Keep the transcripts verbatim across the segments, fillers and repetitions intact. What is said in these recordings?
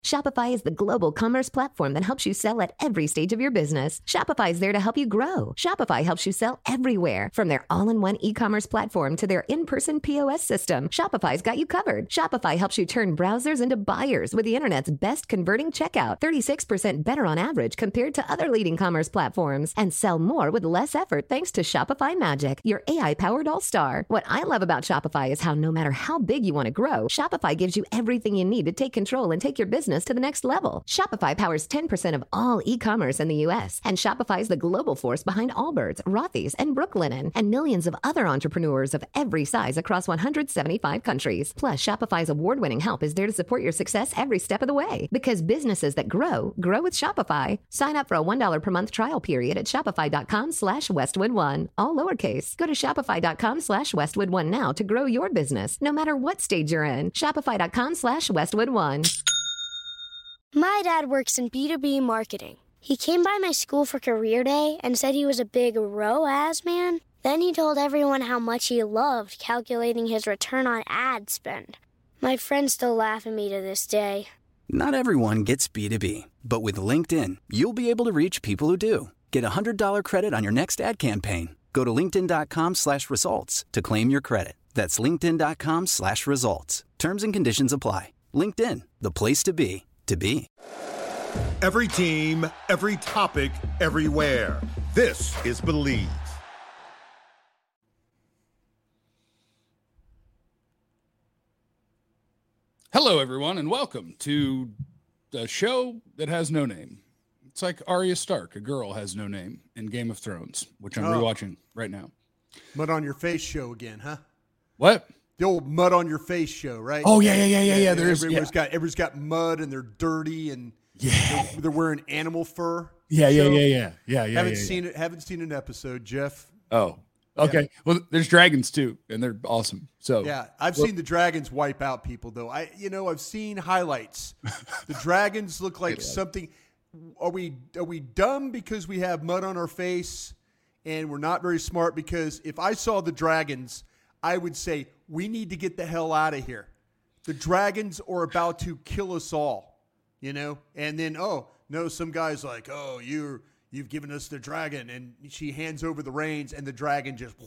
Shopify is the global commerce platform that helps you sell at every stage of your business. Shopify is there to help you grow. Shopify helps you sell everywhere, from their all-in-one e-commerce platform to their in-person P O S system. Shopify's got you covered. Shopify helps you turn browsers into buyers with the internet's best converting checkout, thirty-six percent better on average compared to other leading commerce platforms, and sell more with less effort thanks to Shopify Magic, your A I-powered all-star. What I love about Shopify is how no matter how big you want to grow, Shopify gives you everything you need to take control and take your business to the next level. Shopify powers ten percent of all e-commerce in the U S, and Shopify is the global force behind Allbirds, Rothy's, and Brooklinen, and millions of other entrepreneurs of every size across one hundred seventy-five countries. Plus, Shopify's award-winning help is there to support your success every step of the way. Because businesses that grow, grow with Shopify. Sign up for a one dollar per month trial period at shopify.com slash Westwood One. All lowercase. Go to shopify.com slash Westwood One now to grow your business, no matter what stage you're in. Shopify.com slash Westwood One. My dad works in B two B marketing. He came by my school for career day and said he was a big R O A S man. Then he told everyone how much he loved calculating his return on ad spend. My friends still laugh at me to this day. Not everyone gets B two B, but with LinkedIn, you'll be able to reach people who do. Get a one hundred dollars credit on your next ad campaign. Go to linkedin.com slash results to claim your credit. That's linkedin.com slash results. Terms and conditions apply. LinkedIn, the place to be, to be. Every team, every topic, everywhere. This is Believe. Hello, everyone, and welcome to a show that has no name. It's like Arya Stark, a girl has no name in Game of Thrones, which I'm oh. rewatching right now. Mud on your face show again, huh? What? The old mud on your face show, right? Oh yeah, yeah, yeah, yeah, yeah. There's everyone's yeah. got everyone's got mud and they're dirty and yeah, they're, they're wearing animal fur. Yeah, yeah, yeah, yeah, yeah, yeah. Haven't yeah, seen yeah. it. Haven't seen an episode, Jeff. Oh, okay. Yeah. Well, there's dragons too, and they're awesome. So yeah, I've well, seen the dragons wipe out people though. I, you know, I've seen highlights. The dragons look like something. Are we are we dumb because we have mud on our face, and we're not very smart? Because if I saw the dragons, I would say we need to get the hell out of here. The dragons are about to kill us all, you know. And then oh no, some guy's like, oh you're you've given us the dragon, and she hands over the reins, and the dragon just,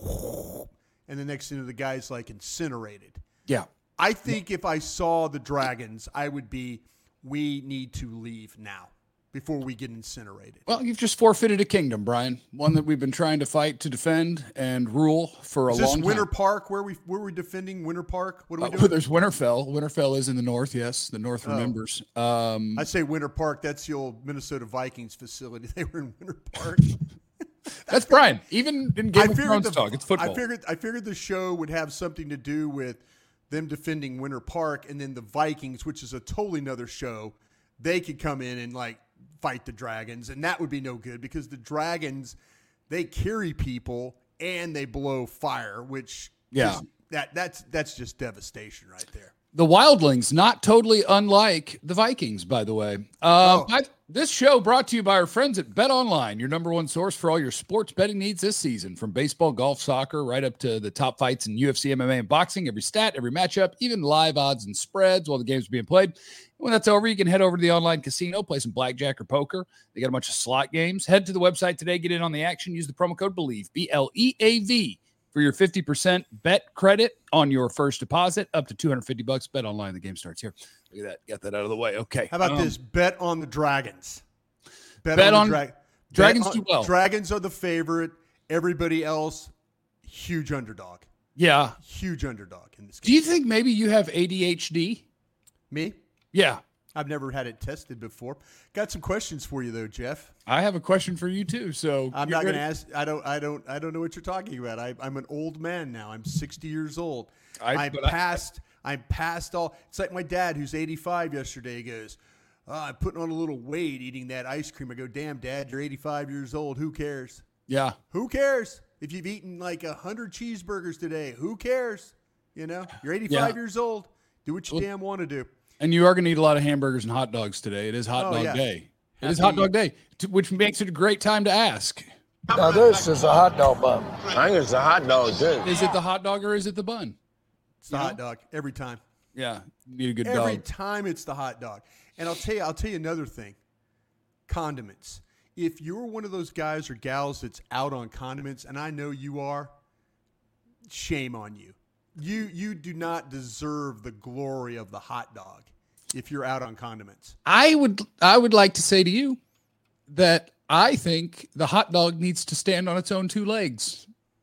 and the next thing the guy's like incinerated. Yeah, I think if I saw the dragons, I would be, we need to leave now. Before we get incinerated. Well, you've just forfeited a kingdom, Brian. One that we've been trying to fight to defend and rule for a is long this time. Winter Park? Where we where we defending Winter Park? What are we uh, doing? Well, there's Winterfell. Winterfell is in the north. Yes, the north oh. remembers. Um, I say Winter Park. That's the old Minnesota Vikings facility. They were in Winter Park. that's, that's Brian. Even in Game I of Thrones the, talk, it's football. I figured I figured the show would have something to do with them defending Winter Park, and then the Vikings, which is a totally another show. They could come in and like fight the dragons, and that would be no good because the dragons, they carry people and they blow fire, which yeah, is, that that's that's just devastation right there. The Wildlings, not totally unlike the Vikings, by the way. Uh, oh. I, this show brought to you by our friends at BetOnline, your number one source for all your sports betting needs this season, from baseball, golf, soccer, right up to the top fights in U F C, M M A, and boxing. Every stat, every matchup, even live odds and spreads while the game's being played. When that's over, you can head over to the online casino, play some blackjack or poker. They got a bunch of slot games. Head to the website today, get in on the action. Use the promo code BELIEVE, B L E A V, for your fifty percent bet credit on your first deposit, up to two hundred fifty bucks. Bet online. The game starts here. Look at that. Got that out of the way. Okay. How about um, this? Bet on the dragons. Bet, bet on, on dra- dragons bet do well. Dragons are the favorite. Everybody else, huge underdog. Yeah. Huge underdog in this game. Do you think maybe you have A D H D? Me? Yeah. I've never had it tested before. Got some questions for you though, Jeff. I have a question for you too. So I'm not going to ask. I don't. I don't. I don't know what you're talking about. I, I'm an old man now. I'm sixty years old. I, I'm past. I, I'm past all. It's like my dad, who's eighty-five. Yesterday, he goes, oh, "I'm putting on a little weight eating that ice cream." I go, "Damn, Dad, you're eighty-five years old. Who cares?" Yeah. Who cares if you've eaten like a hundred cheeseburgers today? Who cares? You know, you're eighty-five yeah. years old. Do what you well, damn want to do. And you are going to eat a lot of hamburgers and hot dogs today. It is hot oh, dog yeah. day. It Happy is hot dog day, which makes it a great time to ask. Now this is a hot dog bun. I think it's a hot dog too. Is it the hot dog or is it the bun? It's the you hot know? dog every time. Yeah, you need a good every dog. time it's the hot dog. And I'll tell you, I'll tell you another thing. Condiments. If you're one of those guys or gals that's out on condiments, and I know you are, shame on you. You you do not deserve the glory of the hot dog if you're out on condiments. I would I would like to say to you that I think the hot dog needs to stand on its own two legs.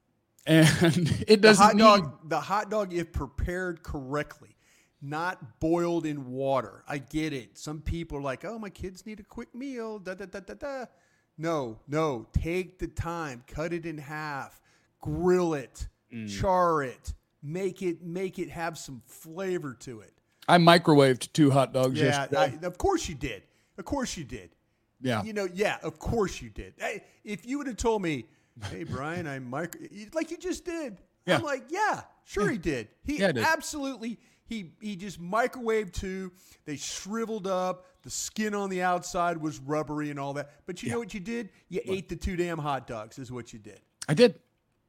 And it doesn't the hot need... dog, the hot dog, if prepared correctly, not boiled in water. I get it. Some people are like, oh, my kids need a quick meal. Da, da, da, da, da. No, no. Take the time. Cut it in half. Grill it. Mm. Char it. Make it make it have some flavor to it. I microwaved two hot dogs yeah, yesterday. I, of course you did. Of course you did. Yeah. You know, yeah, of course you did. Hey, if you would have told me, hey, Brian, I micro like you just did. Yeah. I'm like, yeah, sure yeah. he did. He yeah, did. absolutely he he just microwaved two. They shriveled up. The skin on the outside was rubbery and all that. But you yeah. know what you did? You what? ate the two damn hot dogs is what you did. I did.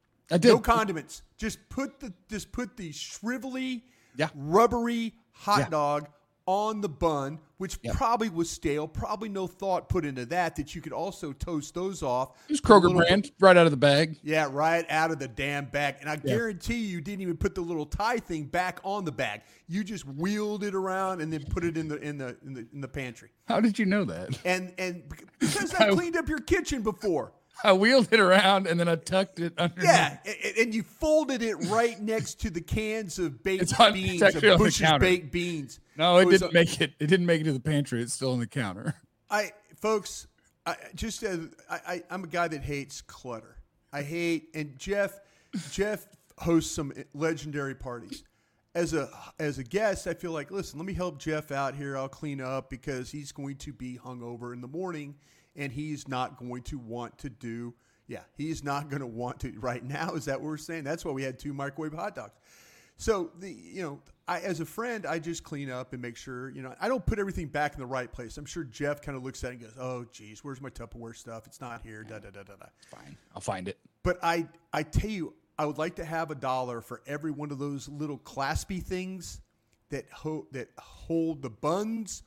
I did. No condiments. Just put the just put the shrivelly, yeah. rubbery hot yeah. dog on the bun, which yeah. probably was stale. Probably no thought put into that, that you could also toast those off. It was Kroger brand, bit, right out of the bag. Yeah, right out of the damn bag. And I yeah. guarantee you didn't even put the little tie thing back on the bag. You just wheeled it around and then put it in the in the in the, in the pantry. How did you know that? And and because I cleaned up your kitchen before. I wheeled it around and then I tucked it underneath. Yeah, and you folded it right next to the cans of baked it's on, beans, it's of Bush's baked beans. No, it, it didn't a, make it. It didn't make it to the pantry. It's still on the counter. I, folks, I just as I, I, I'm a guy that hates clutter. I hate, and Jeff, Jeff hosts some legendary parties. As a as a guest, I feel like, listen, let me help Jeff out here. I'll clean up because he's going to be hungover in the morning. And he's not going to want to do, yeah, he's not going to want to right now. Is that what we're saying? That's why we had two microwave hot dogs. So, the you know, I as a friend, I just clean up and make sure, you know, I don't put everything back in the right place. I'm sure Jeff kind of looks at it and goes, oh, geez, where's my Tupperware stuff? It's not here, da, da, da, da, da. Fine, I'll find it. But I, I tell you, I would like to have a dollar for every one of those little claspy things that ho- that hold the buns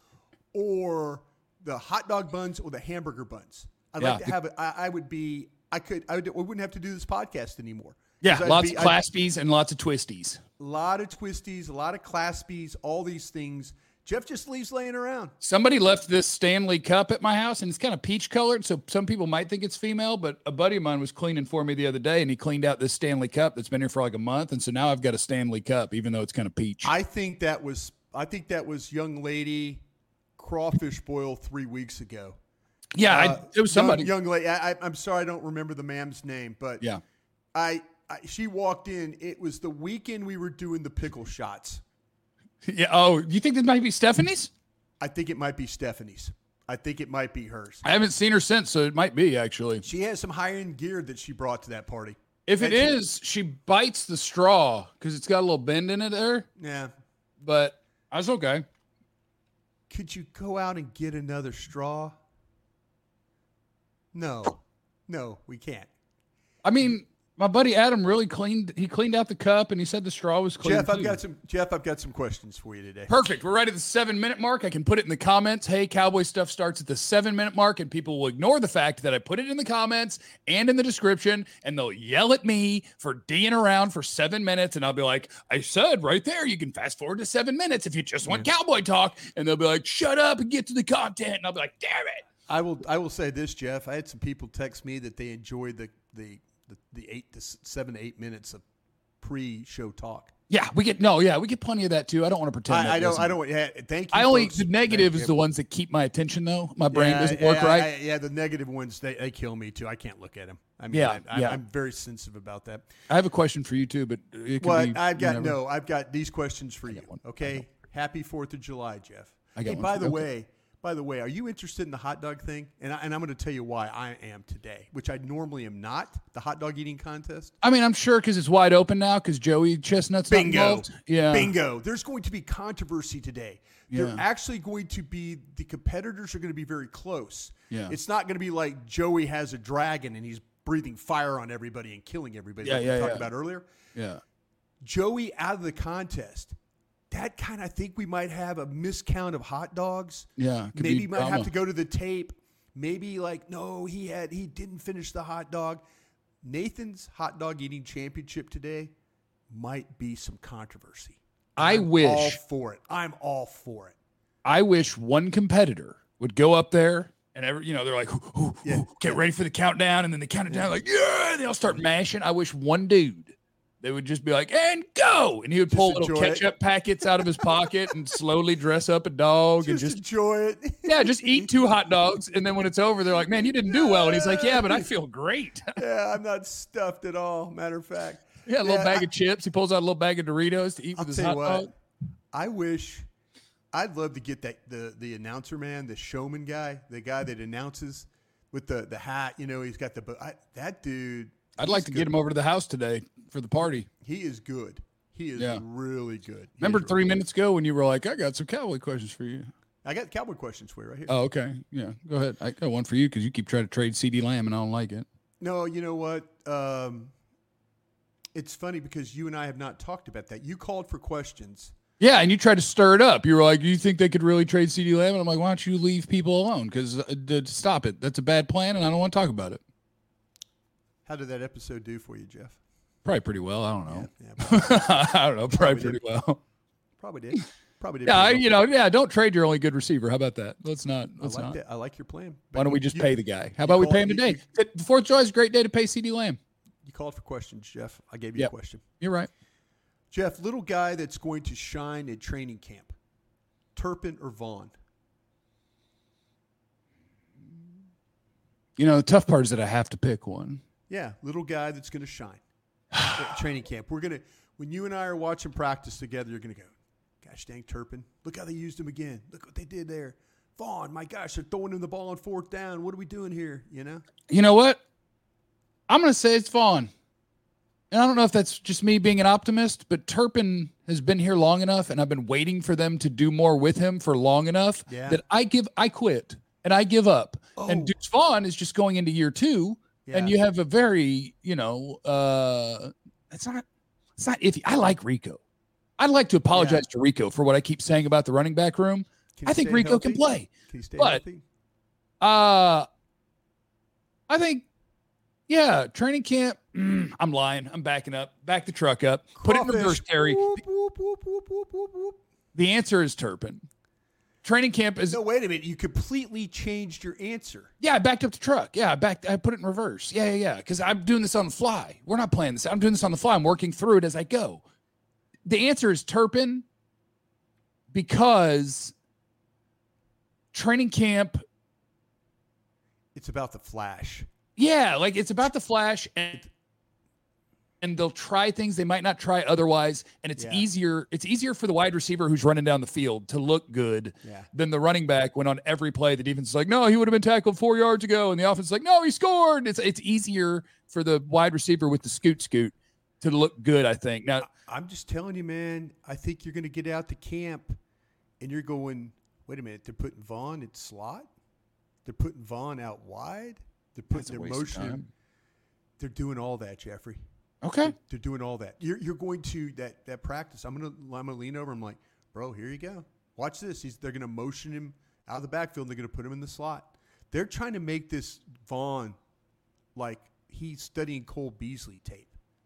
or the hot dog buns or the hamburger buns. I'd yeah. like to have it. I, I would be, I could, I, would, I wouldn't have to do this podcast anymore. Yeah. Lots be, of claspies I'd, and lots of twisties. A lot of twisties, a lot of claspies, all these things. Jeff just leaves laying around. Somebody left this Stanley Cup at my house and it's kind of peach colored. So some people might think it's female, but a buddy of mine was cleaning for me the other day and he cleaned out this Stanley Cup that's been here for like a month. And so now I've got a Stanley Cup, even though it's kind of peach. I think that was, I think that was young lady crawfish boil three weeks ago. Yeah, uh, I, it was somebody. Young, young lady. I, I'm sorry, I don't remember the ma'am's name, but yeah, I, I she walked in. It was the weekend we were doing the pickle shots. Yeah. Oh, you think this might be Stephanie's? I think it might be Stephanie's. I think it might be hers. I haven't seen her since, so it might be actually. She has some high end gear that she brought to that party. If it and is, she, she bites the straw because it's got a little bend in it there. Yeah, but that's okay. Could you go out and get another straw? No. No, we can't. I mean, my buddy Adam really cleaned he cleaned out the cup and he said the straw was clean. Jeff, too. I've got some Jeff, I've got some questions for you today. Perfect. We're right at the seven minute mark. I can put it in the comments. Hey, Cowboy Stuff starts at the seven minute mark, and people will ignore the fact that I put it in the comments and in the description, and they'll yell at me for D'ing around for seven minutes, and I'll be like, I said right there, you can fast forward to seven minutes if you just want yeah. cowboy talk, and they'll be like, shut up and get to the content, and I'll be like, damn it. I will I will say this, Jeff. I had some people text me that they enjoyed the the the, the eight to seven to eight minutes of pre-show talk. Yeah, we get no, yeah, we get plenty of that too. I don't want to pretend. I, I don't. I don't. Yeah, thank you. I only folks. the negative thank is you. the ones that keep my attention though. My brain yeah, doesn't work yeah, right. I, yeah, the negative ones they, they kill me too. I can't look at them. I mean, yeah, I, yeah. I'm very sensitive about that. I have a question for you too, but it can well, be I've got whenever. no. I've got these questions for I you. one. Okay. Happy Fourth of July, Jeff. I got hey, one. by the okay. way. By the way, are you interested in the hot dog thing? And, I, and I'm going to tell you why I am today, which I normally am not, the hot dog eating contest. I mean, I'm sure because it's wide open now because Joey Chestnut's Bingo. not involved. Yeah. Bingo. There's going to be controversy today. Yeah. They're actually going to be, the competitors are going to be very close. Yeah. It's not going to be like Joey has a dragon and he's breathing fire on everybody and killing everybody yeah, like yeah, we talked yeah. about earlier. Yeah. Joey out of the contest that kind of, I think we might have a miscount of hot dogs. Yeah. Maybe might have to go to the tape. Maybe like, no, he had, he didn't finish the hot dog. Nathan's hot dog eating championship today might be some controversy. I I'm wish. all for it. I'm all for it. I wish one competitor would go up there and every, you know, they're like, ooh, ooh, Yeah. ooh, get ready for the countdown. And then they count it down like, yeah, and they all start mashing. I wish one dude, they would just be like, and go. And he would pull Just little enjoy it. ketchup packets out of his pocket and slowly dress up a dog and Just just, enjoy it. yeah, just eat two hot dogs. And then when it's over, they're like, man, you didn't do well. And he's like, yeah, but I feel great. Yeah, I'm not stuffed at all. Matter of fact. Yeah, a little Yeah, bag I- of chips. He pulls out a little bag of Doritos to eat I'll with his tell you hot what. dog. I wish, I'd love to get that the the announcer man, the showman guy, the guy that announces with the, the hat. You know, he's got the I, that dude. I'd like he's to good. get him over to the house today for the party. He is good. He is Yeah. really good. He Remember is three really good. minutes ago when you were like, I got some cowboy questions for you. I got cowboy questions for you right here. Oh, okay. Yeah, go ahead. I got one for you because you keep trying to trade CeeDee Lamb and I don't like it. No, you know what? Um, it's funny because you and I have not talked about that. You called for questions. Yeah, and you tried to stir it up. You were like, do you think they could really trade CeeDee Lamb? And I'm like, why don't you leave people alone? Because uh, d- stop it. That's a bad plan, and I don't want to talk about it. How did that episode do for you, Jeff? Probably pretty well. I don't know. Yeah, yeah, I don't know. Probably, Probably pretty did. well. probably did. Probably did. Yeah, I, pretty well. you know, yeah. Don't trade your only good receiver. How about that? Let's not. I Let's like not. that. I like your plan. Why don't we just You- pay the guy? How about we called- pay him you- today? you- The Fourth of July is a great day to pay CeeDee Lamb. You called for questions, Jeff. I gave you Yep. a question. You're right. Jeff, little guy that's going to shine at training camp, Turpin or Vaughn? You know, the tough part is that I have to pick one. Yeah, little guy that's going to shine at training camp. We're going to, when you and I are watching practice together, you're going to go, gosh dang, Turpin. Look how they used him again. Look what they did there. Vaughn, my gosh, they're throwing him the ball on fourth down. What are we doing here? You know? You know what? I'm going to say it's Vaughn. And I don't know if that's just me being an optimist, but Turpin has been here long enough, and I've been waiting for them to do more with him for long enough Yeah. that I give, I quit and I give up. Oh. And Deuce Vaughn is just going into year two, and Yeah. you have a very, you know, uh, it's not, it's not iffy. I like Rico. I'd like to apologize to Rico for what I keep saying about the running back room. Can he I think stay Rico healthy? can play. Can he stay But- healthy? Uh, I think, yeah, training camp. Mm, I'm lying. I'm backing up. Back the truck up. Put it in Crawfish. reverse, Terry. Whoop, whoop, whoop, whoop, whoop, whoop, whoop. The answer is Turpin. Training camp is No, wait a minute. You completely changed your answer. yeah. I backed up the truck. Yeah, I backed. I put it in reverse. Yeah, yeah, yeah. Because I'm doing this on the fly. We're not playing this. I'm doing this on the fly. I'm working through it as I go. The answer is Turpin because training camp. It's about the flash. Yeah, like it's about the flash and and they'll try things they might not try otherwise. And it's Yeah. easier. It's easier for the wide receiver who's running down the field to look good Yeah. than the running back when on every play the defense is like, no, he would have been tackled four yards ago. And the offense is like, no, he scored. It's it's easier for the wide receiver with the scoot scoot to look good, I think. Now, I'm just telling you, man. I think you're going to get out to camp, and you're going. Wait a minute. They're putting Vaughn in slot. They're putting Vaughn out wide. They're That's putting a their waste of motion. time. They're doing all that, Jeffrey. okay. They're doing all that. You're you're going to that that practice. I'm gonna I'm gonna lean over. I'm like, bro, here you go. Watch this. He's they're gonna motion him out of the backfield. And they're gonna put him in the slot. They're trying to make this Vaughn like he's studying Cole Beasley tape.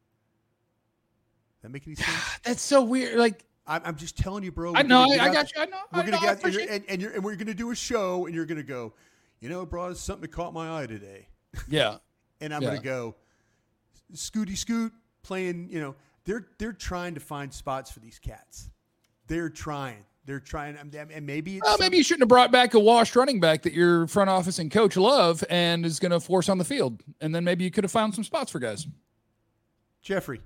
Does that make any sense? That's so weird. Like, I'm, I'm just telling you, bro. I we're know, gonna get I out got the- you. I know. We're I gonna know, I get out, and, appreciate you're, and, and, you're, and we're gonna do a show, and you're gonna go, you know, bro, there's something that caught my eye today, yeah. and I'm Yeah. gonna go, Scooty Scoot playing. You know, they're they're trying to find spots for these cats. They're trying. They're trying, and and maybe it's Well, maybe you shouldn't have brought back a washed running back that your front office and coach love and is going to force on the field. And then maybe you could have found some spots for guys. Jeffrey.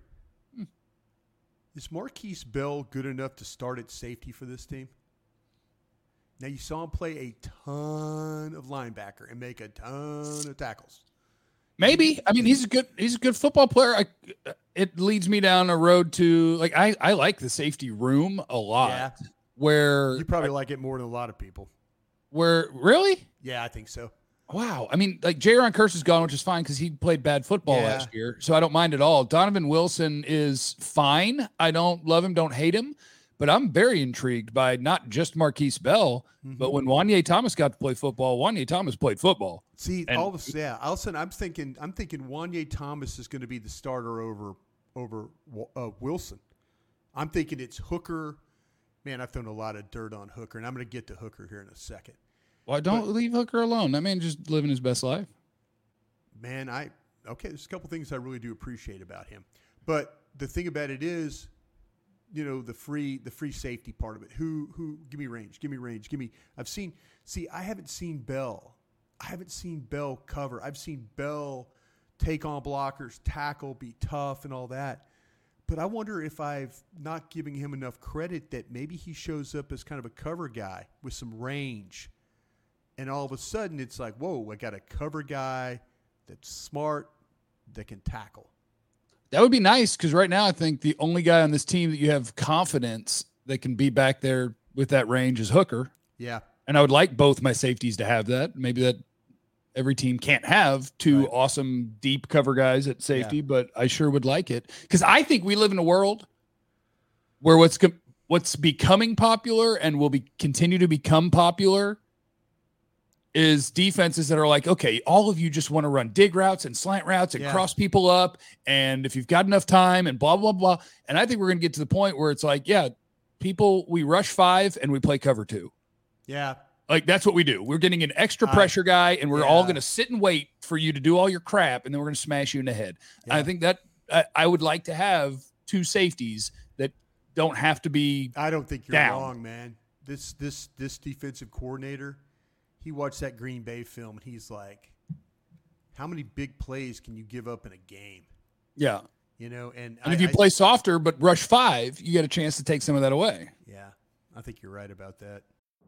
Is Marquise Bell good enough to start at safety for this team? Now, you saw him play a ton of linebacker and make a ton of tackles. Maybe. I mean, he's a good he's a good football player. I, it leads me down a road to like I, I like the safety room a lot. Yeah. Where You probably like it more than a lot of people. where really? Yeah, I think so. Wow. I mean, like Jaron Curse is gone, which is fine because he played bad football Yeah. last year. So I don't mind at all. Donovan Wilson is fine. I don't love him, don't hate him. but I'm very intrigued by not just Marquise Bell, mm-hmm. but when Wanye Thomas got to play football, Wanye Thomas played football. See, and, all of a yeah, all of a sudden I'm thinking, I'm thinking Wanye Thomas is going to be the starter over over uh, Wilson. I'm thinking it's Hooker. Man, I've thrown a lot of dirt on Hooker, and I'm going to get to Hooker here in a second. Well, don't but, leave Hooker alone. That man just living his best life. Man, I okay. There's a couple things I really do appreciate about him, but the thing about it is, you know, the free the free safety part of it. Who who give me range, give me range, give me. I've seen. See, I haven't seen Bell. I haven't seen Bell cover. I've seen Bell take on blockers, tackle, be tough, and all that. But I wonder if I've not giving him enough credit that maybe he shows up as kind of a cover guy with some range, and all of a sudden it's like, whoa, I got a cover guy that's smart, that can tackle. That would be nice, because right now I think the only guy on this team that you have confidence that can be back there with that range is Hooker. Yeah. And I would like both my safeties to have that. Maybe that every team can't have two right. awesome deep cover guys at safety, yeah. but I sure would like it, because I think we live in a world where what's what's becoming popular and will be continue to become popular is defenses that are like, okay, all of you just want to run dig routes and slant routes and yeah. cross people up. And if you've got enough time and blah, blah, blah. And I think we're going to get to the point where it's like, yeah, people, we rush five and we play cover two. Yeah. Like that's what we do. We're getting an extra pressure guy, and we're yeah. all going to sit and wait for you to do all your crap. And then we're going to smash you in the head. Yeah. I think that I, I would like to have two safeties that don't have to be I don't think you're down. wrong, man. This, this, this defensive coordinator, he watched that Green Bay film, and he's like, how many big plays can you give up in a game? Yeah. You know, and, and I, if you I, play softer but rush five, you get a chance to take some of that away. Yeah, I think you're right about that.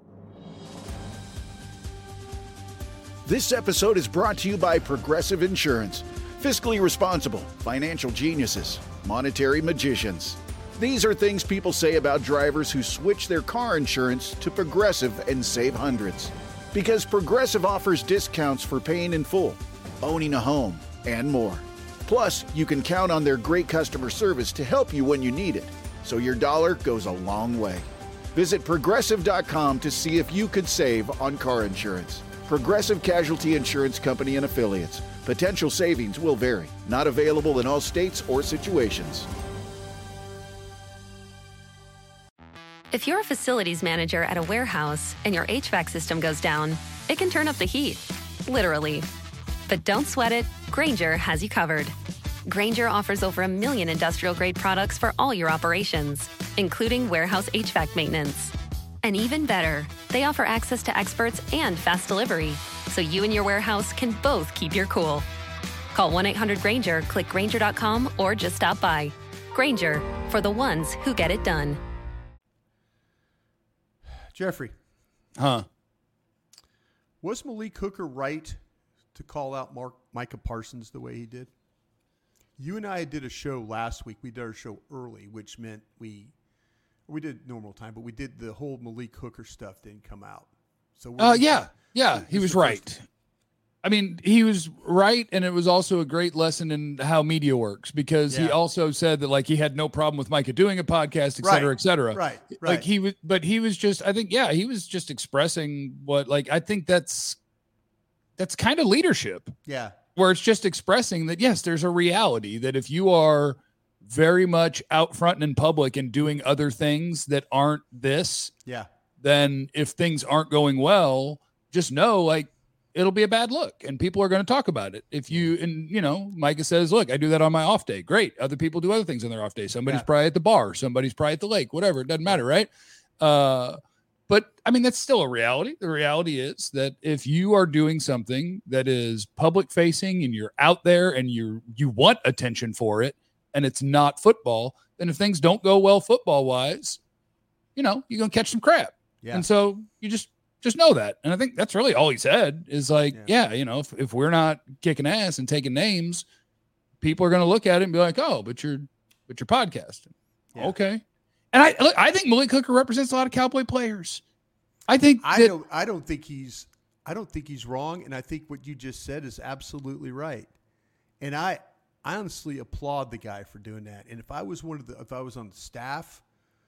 This episode is brought to you by Progressive Insurance. Fiscally responsible, financial geniuses, monetary magicians. These are things people say about drivers who switch their car insurance to Progressive and save hundreds. Because Progressive offers discounts for paying in full, owning a home, and more. Plus, you can count on their great customer service to help you when you need it, so your dollar goes a long way. Visit Progressive dot com to see if you could save on car insurance. Progressive Casualty Insurance Company and Affiliates. Potential savings will vary. Not available in all states or situations. If you're a facilities manager at a warehouse and your H V A C system goes down, it can turn up the heat, literally. But don't sweat it, Grainger has you covered. Grainger offers over a million industrial-grade products for all your operations, including warehouse H V A C maintenance. And even better, they offer access to experts and fast delivery, so you and your warehouse can both keep your cool. Call one eight hundred Grainger, click Grainger dot com, or just stop by. Grainger, for the ones who get it done. Jeffrey. Huh? Was Malik Hooker right to call out Mark, Micah Parsons the way he did? You and I did a show last week. We did our show early, which meant we we did normal time, but we did the whole Malik Hooker stuff didn't come out. So uh, yeah, yeah, he was right. I mean, he was right, and it was also a great lesson in how media works, because yeah. he also said that, like, he had no problem with Micah doing a podcast, et cetera, right. et cetera. Right, right. Like, he was, but he was just, I think, yeah, he was just expressing what, like, I think that's, that's kind of leadership. Yeah. Where it's just expressing that, yes, there's a reality that if you are very much out front and in public and doing other things that aren't this, yeah, then if things aren't going well, just know, like, it'll be a bad look and people are going to talk about it. If you, and you know, Micah says, look, I do that on my off day. Great. Other people do other things on their off day. Somebody's yeah. probably at the bar. Somebody's probably at the lake, whatever. It doesn't matter. Right. Uh, but I mean, that's still a reality. The reality is that if you are doing something that is public facing and you're out there and you you want attention for it and it's not football, then if things don't go well football wise, you know, you're going to catch some crap. Yeah. And so you just, Just know that. And I think that's really all he said is like, yeah, yeah you know, if, if we're not kicking ass and taking names, people are going to look at it and be like, oh, but you're, but you're podcasting. Yeah. Okay. And I, look, I think Malik Hooker represents a lot of Cowboy players. I think I that, don't, I don't think he's, I don't think he's wrong. And I think what you just said is absolutely right. And I, I honestly applaud the guy for doing that. And if I was one of the, if I was on the staff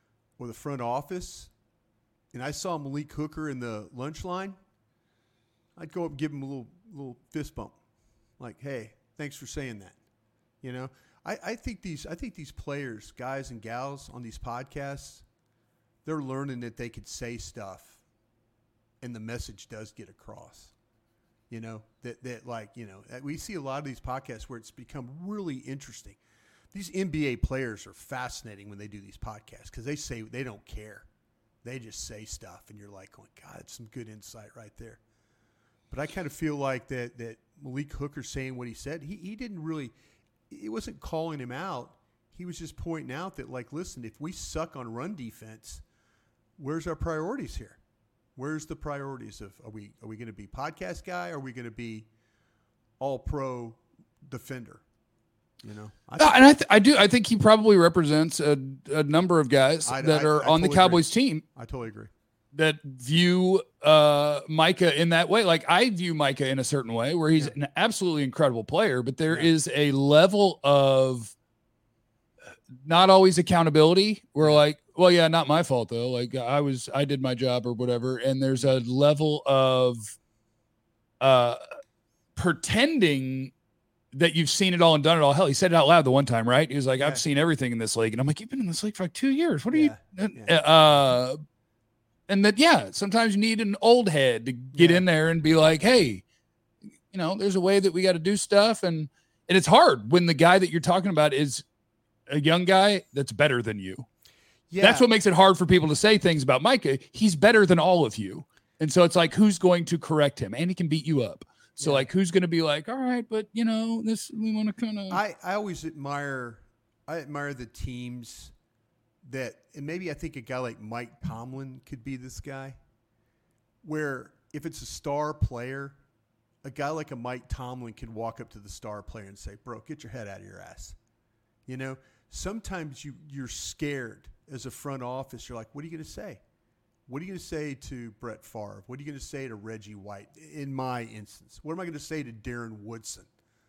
or the front office, and I saw Malik Hooker in the lunch line, I'd go up and give him a little little fist bump, like, "Hey, thanks for saying that." You know, I, I think these I think these players, guys and gals on these podcasts, they're learning that they could say stuff, and the message does get across. You know, that that like you know we see a lot of these podcasts where it's become really interesting. These N B A players are fascinating when they do these podcasts because they say they don't care. They just say stuff, and you're like, "Oh, God, it's some good insight right there." But I kind of feel like that that Malik Hooker saying what he said, he he didn't really, it wasn't calling him out. He was just pointing out that, like, listen, if we suck on run defense, where's our priorities here? Where's the priorities of are we are we going to be podcast guy? Or are we going to be all pro defender? You know, I no, and I th- I do I think he probably represents a, a number of guys I, that I, are I on totally the Cowboys agree. team. I totally agree. That view uh, Micah in that way. Like I view Micah in a certain way where he's yeah. an absolutely incredible player, but there yeah. is a level of not always accountability. We're yeah. like, well, yeah, not my fault though. Like I was, I did my job or whatever. And there's a level of uh, pretending that you've seen it all and done it all. Hell, he said it out loud the one time, right? He was like, yeah. I've seen everything in this league. And I'm like, you've been in this league for like two years. What are yeah. you? Yeah. Uh, and that, yeah, sometimes you need an old head to get yeah. in there and be like, hey, you know, there's a way that we got to do stuff. And, and it's hard when the guy that you're talking about is a young guy that's better than you. Yeah. That's what makes it hard for people to say things about Micah. He's better than all of you. And so it's like, who's going to correct him? And he can beat you up. So yeah. like, who's going to be like, all right, but you know, this, we want to kind of, I, I always admire, I admire the teams that, and maybe I think a guy like Mike Tomlin could be this guy where if it's a star player, a guy like a Mike Tomlin could walk up to the star player and say, bro, get your head out of your ass. You know, sometimes you, you're scared as a front office. You're like, what are you going to say? What are you going to say to Brett Favre? What are you going to say to Reggie White? In my instance, what am I going to say to Darren Woodson?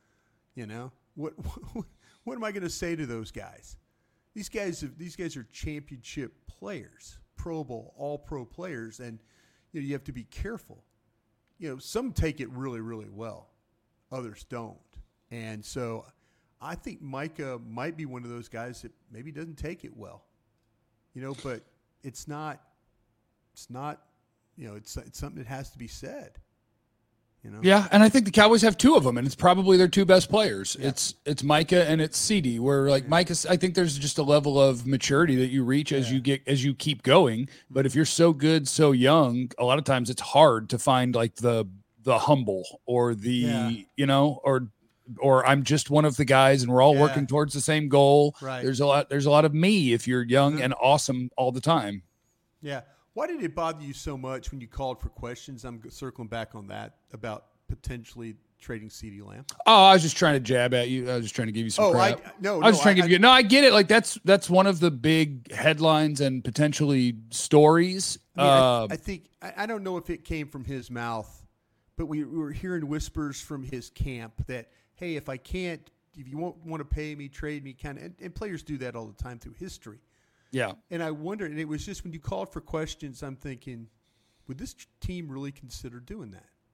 You know, what what, what am I going to say to those guys? These guys, have, these guys are championship players, Pro Bowl, All-Pro players, and you know you have to be careful. You know, some take it really, really well, others don't, and so I think Micah might be one of those guys that maybe doesn't take it well. You know, but it's not. It's not, you know, it's it's something that has to be said. You know? Yeah, and I think the Cowboys have two of them, and it's probably their two best players. Yeah. It's it's Micah and it's C D. Where like yeah. Micah, I think there's just a level of maturity that you reach as yeah. you get as you keep going. But if you're so good, so young, a lot of times it's hard to find like the the humble or the yeah. you know or or I'm just one of the guys, and we're all yeah. working towards the same goal. Right. There's a lot. There's a lot of me if you're young mm-hmm. and awesome all the time. Yeah. Why did it bother you so much when you called for questions? I'm circling back on that about potentially trading CeeDee Lamb. Oh, I was just trying to jab at you. I was just trying to give you some oh, crap. I, no, I was no, trying I, to give you. No, I get it. Like that's that's one of the big headlines and potentially stories. I, mean, uh, I, I think I, I don't know if it came from his mouth, but we, we were hearing whispers from his camp that, hey, if I can't, if you won't want to pay me, trade me, kind of. And, and players do that all the time through history. Yeah. And I wondered, and it was just when you called for questions, I'm thinking, would this team really consider doing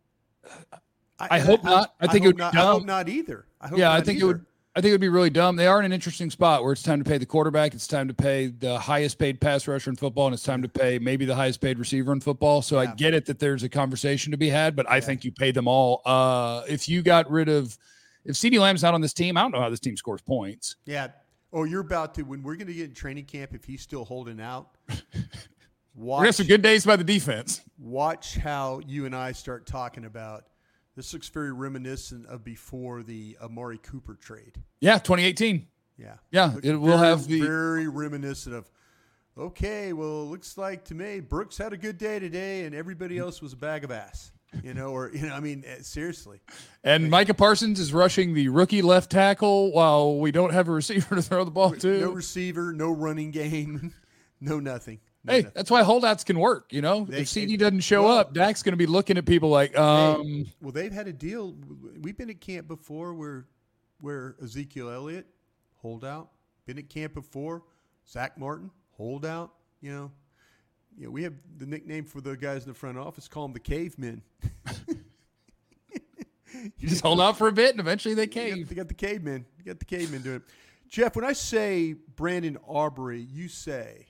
that? I, I hope I, not. I, I think I it would not, be dumb. I hope not either. I hope yeah, not I think either. it would. I think it would be really dumb. They are in an interesting spot where it's time to pay the quarterback, it's time to pay the highest paid pass rusher in football, and it's time to pay maybe the highest paid receiver in football. So yeah. I get it that there's a conversation to be had, but I yeah. think you pay them all. Uh, if you got rid of, if CeeDee Lamb's not on this team, I don't know how this team scores points. Yeah. Oh, you're about to, when we're going to get in training camp, if he's still holding out, watch, we're going to have some good days by the defense. Watch how you and I start talking about, this looks very reminiscent of before the Amari Cooper trade. Yeah, twenty eighteen. Yeah. Yeah, it will have the. Very reminiscent of, okay, well, it looks like to me, Brooks had a good day today and everybody else was a bag of ass. You know, or, you know, I mean, seriously. And like, Micah Parsons is rushing the rookie left tackle while we don't have a receiver to throw the ball to. No receiver, no running game, no nothing. No hey, nothing. That's why holdouts can work, you know? They, if C D doesn't show well, up, Dak's going to be looking at people like, um. Hey, well, they've had a deal. We've been at camp before where, where Ezekiel Elliott, holdout. Been at camp before. Zach Martin, holdout. You know, you know, we have the nickname for the guys in the front office. Call them the cavemen. You just hold out for a bit, and eventually they cave. You got, they got the cavemen. You got the cavemen doing it. Jeff, when I say Brandon Aubrey, you say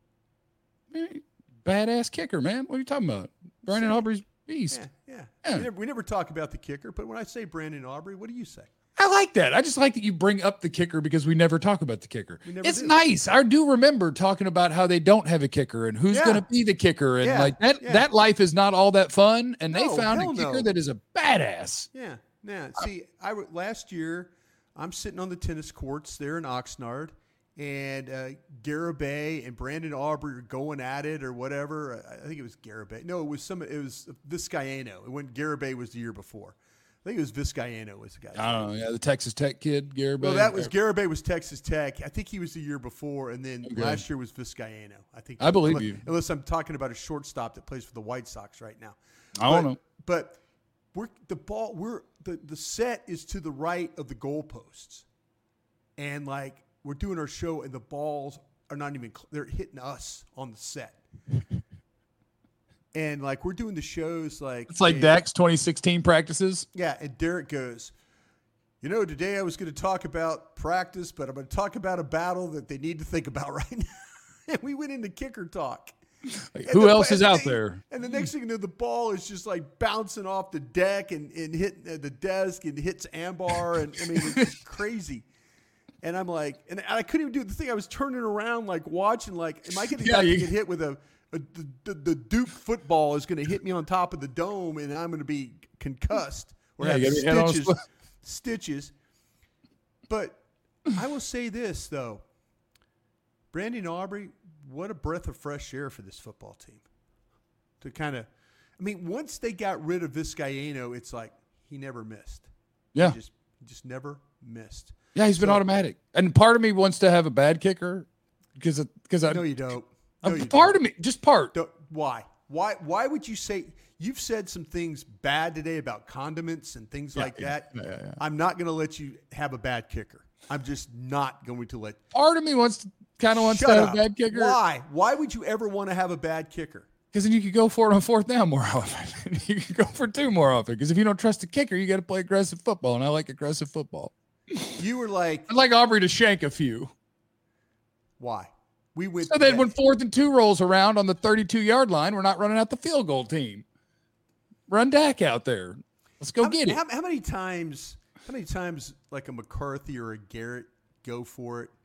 badass kicker, man. What are you talking about? Brandon Aubrey's beast. Yeah, yeah. yeah. We, never, we never talk about the kicker, but when I say Brandon Aubrey, what do you say? I like that. I just like that you bring up the kicker because we never talk about the kicker. It's do. nice. I do remember talking about how they don't have a kicker and who's Yeah. going to be the kicker. And Yeah, like that, yeah. that life is not all that fun. And they No, found a hell kicker no. that is a badass. Yeah, yeah. See, I w- last year I'm sitting on the tennis courts there in Oxnard, and uh, Garibay and Brandon Aubrey are going at it or whatever. I, I think it was Garibay. No, it was some. It was Vizcaino. It went Garibay was the year before. I think it was Vizcaino was the guy. I don't know. Yeah, the Texas Tech kid, Garibay. Well, that was Garibay was Texas Tech. I think he was the year before, and then Okay. last year was Vizcaino. I think. I believe unless, you. Unless I'm talking about a shortstop that plays for the White Sox right now. I don't But- know. But we're the ball. We're the the set is to the right of the goalposts, and like we're doing our show, and the balls are not even. cl- They're hitting us on the set. And like we're doing the shows, like It's like and- Dak's twenty sixteen practices. yeah, and Derek goes, you know, today I was going to talk about practice, but I'm going to talk about a battle that they need to think about right now. And we went into kicker talk. Like, And who the- else is and out the- there? And the next thing you know, the ball is just like bouncing off the deck and, and hitting uh, the desk and hits Ambar. And I mean, it's just crazy. And I'm like, and I couldn't even do the thing. I was turning around, like watching, like, am I going Yeah, to you- get hit with a, a the, the, the Duke football is going to hit me on top of the dome and I'm going to be concussed or Yeah, have you gotta be head on stitches, split. stitches. But I will say this, though. Brandon Aubrey, what a breath of fresh air for this football team. To kind of, I mean, once they got rid of Vizcaino, it's like he never missed. Yeah. He just, he just never missed. Yeah, he's been So- automatic. And part of me wants to have a bad kicker because because I No, you don't. No, a you part don't. of me, just part. Don't- Why? Why? Why would you say you've said some things bad today about condiments and things Yeah, like yeah, that? yeah, yeah, yeah. I'm not going to let you have a bad kicker. I'm just not going to let. Part of me wants to kind of wants Shut to have up. a bad kicker. Why? Why would you ever want to have a bad kicker? Because then you could go for it on fourth down more often. You could go for two more often. Because if you don't trust the kicker, you got to play aggressive football, and I like aggressive football. You were like, I'd like Aubrey to shank a few. why? We went. So then that- when fourth and two rolls around on the thirty-two yard line, we're not running out the field goal team. Run Dak out there. Let's go how, get it. How, how many times? How many times like a McCarthy or a Garrett go for it,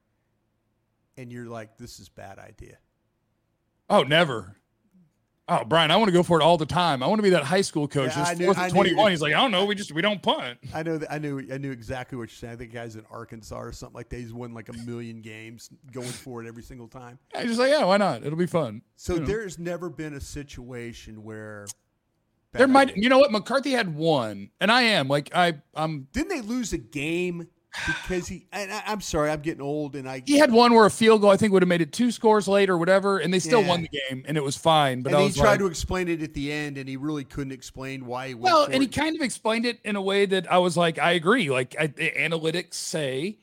and you're like, this is a bad idea. Oh, never. Oh, Brian, I want to go for it all the time. I want to be that high school coach. Yeah, I It's knew- fourth I and knew you twenty-one. did. He's like, I don't know. We just we don't punt. I know that I knew I knew exactly what you're saying. I think guys in Arkansas or something like that. He's won like a million games going for it every single time. Yeah, he's just like, yeah, why not? It'll be fun. So You know. there's never been a situation where There bad might, idea. you know what? McCarthy had one, and I am like, I, I'm. Didn't they lose a game because he? And I, I'm sorry, I'm getting old, and I. He had one where a field goal I think would have made it two scores late or whatever, and they still Yeah. won the game, and it was fine. But and I he was tried like, to explain it at the end, and he really couldn't explain why he went. well, for and he it. kind of explained it in a way that I was like, I agree. Like I, the analytics say,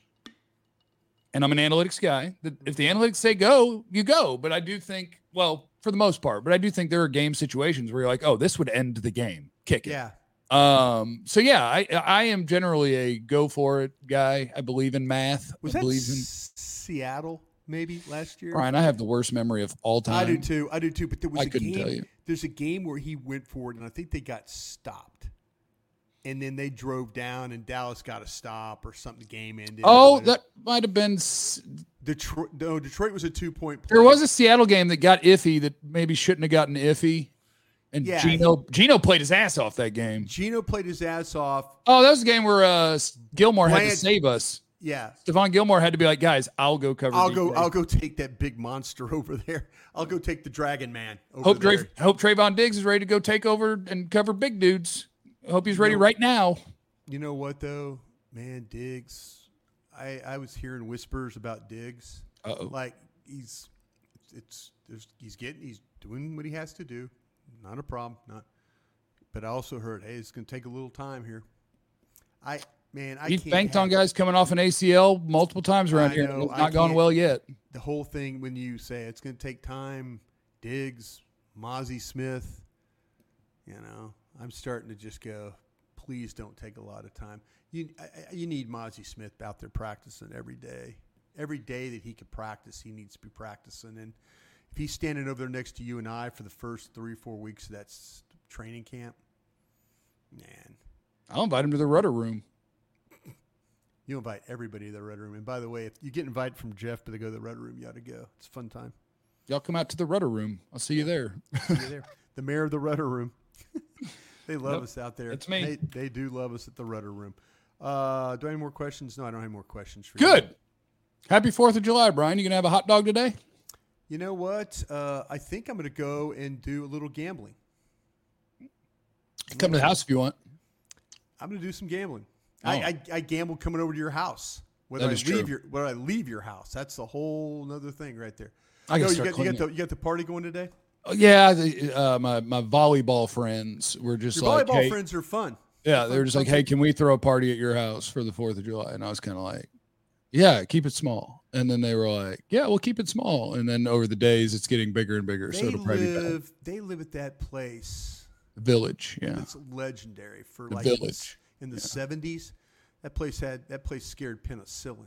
and I'm an analytics guy, that if the analytics say go, you go. But I do think, well, for the most part, but I do think there are game situations where you're like, oh, this would end the game. Kick it. Yeah. Um. So yeah, I I am generally a go for it guy. I believe in math. Was I that believe in S- Seattle maybe last year? Brian. I have the worst memory of all time. I do too. I do too. But there was I a couldn't game. tell you. There's a game where he went for it, and I think they got stopped. And then they drove down, and Dallas got a stop or something. The game ended. Oh, And that might have been. s- Detroit. No, Detroit was a two point play. There was a Seattle game that got iffy that maybe shouldn't have gotten iffy, and Yeah, Gino Gino played his ass off that game. Gino played his ass off. Oh, that was a game where uh, Gilmore had to Bryant- save us. Yeah. Stephon Gilmore had to be like, guys, I'll go cover. I'll these go. guys." I'll go take that big monster over there. I'll go take the Dragon Man over Hope there. Dra- Hope Trayvon Diggs is ready to go take over and cover big dudes. Hope he's ready No. right now. You know what though, man, Diggs. I I was hearing whispers about Diggs. Uh-oh. Like he's it's, it's there's, he's getting he's doing what he has to do. Not a problem. Not. But I also heard, hey, it's going to take a little time here. I Man, I We've can't banked have on guys coming off an A C L multiple times around I here. know, It's I not gone can't- well yet. The whole thing when you say it's going to take time, Diggs, Mozzie Smith, you know, I'm starting to just go, please don't take a lot of time. You I, you need Mozzie Smith out there practicing every day. Every day that he can practice, he needs to be practicing. And if he's standing over there next to you and I for the first three, four weeks of that s- training camp, man. I'll invite him to the rudder room. You invite everybody to the Rudder Room. And by the way, if you get invited from Jeff to go to the Rudder Room, you ought to go. It's a fun time. Y'all come out to the rudder room. I'll see you there. See you there. The mayor of the Rudder Room. They love Yep, us out there. that's me. They, they do love us at the Rudder Room. Uh, do I have any more questions? No, I don't have more questions for you. Good. Happy fourth of July, Brian. You going to have a hot dog today? You know what? Uh, I think I'm going to go and do a little gambling. Come to the house if you want. I'm going to do some gambling. Oh. I, I, I gambled coming over to your house. Whether That I is leave true. your whether I leave your house, that's the whole other thing right there. I gotta No, you start got you got cleaning. the you got the party going today. Oh, yeah, the, uh, my my volleyball friends were just Your like, volleyball hey, friends are fun. yeah, they were just fun like, hey, people. can we throw a party at your house for the fourth of July? And I was kind of like, yeah, keep it small. And then they were like, yeah, we'll keep it small. And then over the days, it's getting bigger and bigger. so They it'll probably be bad. live. They live at that place. Village, yeah. It's legendary for The like Village. in the seventies. That place had that place scared penicillin.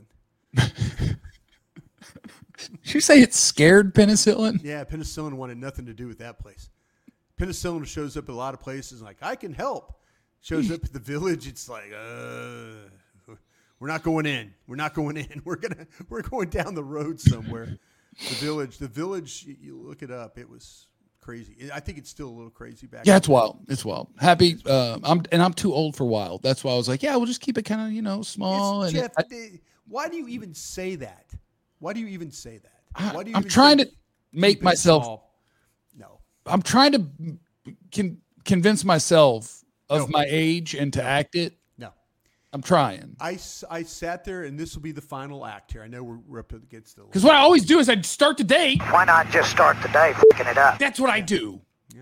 Did you say it scared penicillin? Yeah, penicillin wanted nothing to do with that place. Penicillin shows up at a lot of places like, I can help. Shows up at the Village, it's like, uh, we're not going in. We're not going in. We're gonna we're going down the road somewhere. The Village, the Village. You, you look it up. It was crazy. I think it's still a little crazy back. Yeah, then. it's wild. It's wild. Happy. Uh, I'm and I'm too old for wild. That's why I was like, yeah, we'll just keep it kind of you know small. It's, and Jeff, I, they- why do you even say that? Why do you even say that? I, Why do you I'm even trying say to make keep it myself. small? No. I'm trying to con- convince myself of No. my age and to act it. No. I'm trying. I, s- I sat there, and this will be the final act here. I know we're, we're up against the. Because what I always do is I start the day. Why not just start the day f***ing it up? That's what I do.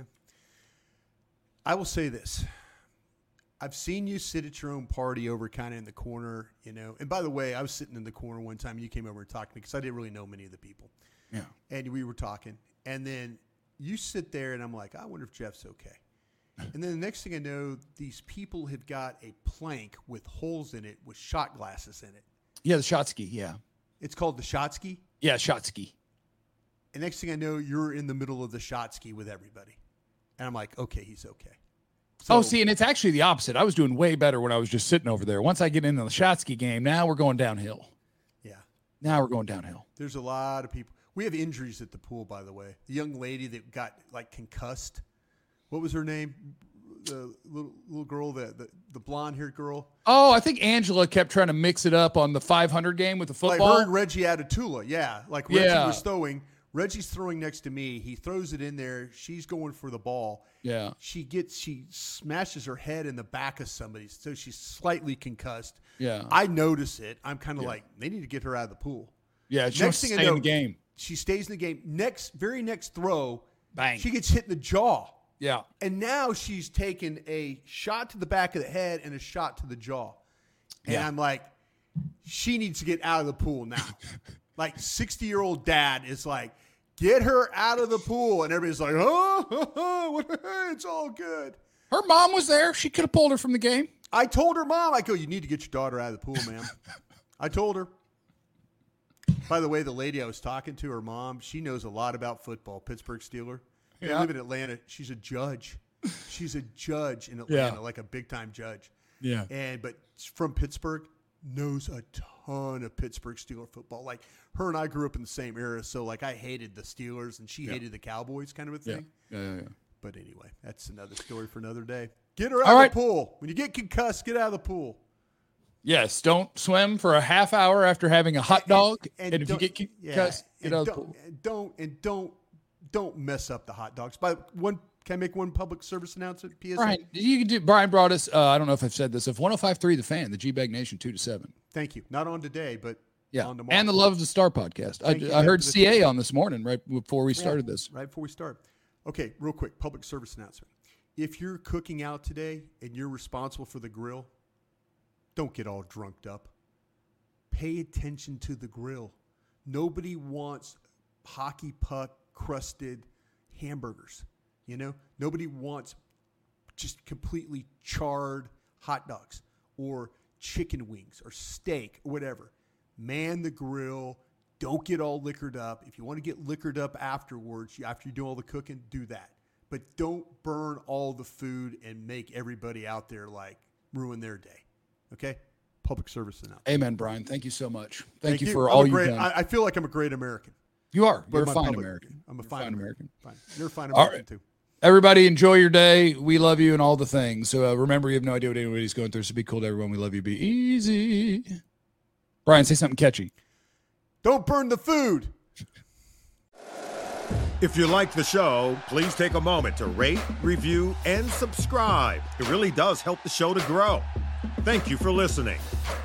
I will say this. I've seen you sit at your own party over kind of in the corner, you know. And by the way, I was sitting in the corner one time, and you came over and talked to me because I didn't really know many of the people. Yeah. And we were talking. And then you sit there, and I'm like, I wonder if Jeff's okay. And then the next thing I know, these people have got a plank with holes in it with shot glasses in it. Yeah, the shot ski. Yeah. It's called the shot ski. Yeah, shot ski. And next thing I know, you're in the middle of the shot ski with everybody. And I'm like, okay, he's okay. oh, So- see, and it's actually the opposite. I was doing way better when I was just sitting over there. Once I get into the shot ski game, now we're going downhill. Yeah. Now we're going downhill. There's a lot of people. We have injuries at the pool, by the way. The young lady that got like concussed. What was her name? The little little girl, the the, the blonde haired girl. Oh, I think Angela kept trying to mix it up on the five hundred game with the football. Like her and Reggie Atatula. Yeah. Like Reggie Yeah. was throwing. Reggie's throwing next to me. He throws it in there. She's going for the ball. Yeah. She gets she smashes her head in the back of somebody, so she's slightly concussed. Yeah. I notice it. I'm kind of Yeah. like, they need to get her out of the pool. Yeah, she Next wants to thing I stay in know, the game. She stays in the game. Next, very next throw, Bang. she gets hit in the jaw. Yeah. And now she's taken a shot to the back of the head and a shot to the jaw. And Yeah. I'm like, she needs to get out of the pool now. Like sixty-year-old dad is like, get her out of the pool. And everybody's like, oh, oh, oh what- it's all good. Her mom was there. She could have pulled her from the game. I told her mom, I go, you need to get your daughter out of the pool, ma'am. I told her. By the way, the lady I was talking to, her mom, she knows a lot about football, Pittsburgh Steeler. They Yeah. live in Atlanta. She's a judge. She's a judge in Atlanta, Yeah. like a big-time judge. Yeah. And but from Pittsburgh, knows a ton of Pittsburgh Steeler football. Like her and I grew up in the same era, so like I hated the Steelers and she Yeah. hated the Cowboys, kind of a Yeah. thing. Yeah, yeah, yeah. But anyway, that's another story for another day. Get her out All of right. the pool. When you get concussed, get out of the pool. Yes, don't swim for a half hour after having a hot dog. And, if you don't- get yeah, concussed, get and out of the don't, pool. and don't and don't don't mess up the hot dogs. But one, can I make one public service announcement? P S A. Brian, you can do. Brian brought us. Uh, I don't know if I've said this. Of one hundred five point three The Fan, the G-Bag Nation, two to seven. Thank you. Not on today, but Yeah, on tomorrow. and the Love of the Star podcast. Thank you. I, I heard That's- C A on this morning right before we Yeah, started this. Right before we start. Okay, real quick, public service announcement. If you're cooking out today and you're responsible for the grill, don't get all drunked up. Pay attention to the grill. Nobody wants hockey puck crusted hamburgers. You know, nobody wants just completely charred hot dogs or chicken wings or steak or whatever. Man the grill. Don't get all liquored up. If you want to get liquored up afterwards, after you do all the cooking, do that. But don't burn all the food and make everybody out there like ruin their day. Okay? Public service announcement. Amen, Brian. Thank you so much. Thank, Thank you you for I'm all a great, you've done. I, I feel like I'm a great American. You are. But You're a my fine public- American. I'm a You're fine, fine American. American. Fine. You're a fine All American right. too. Everybody, enjoy your day. We love you and all the things. So uh, remember, you have no idea what anybody's going through. So be cool to everyone. We love you. Be easy. Brian, say something catchy. Don't burn the food. If you like the show, please take a moment to rate, review, and subscribe. It really does help the show to grow. Thank you for listening.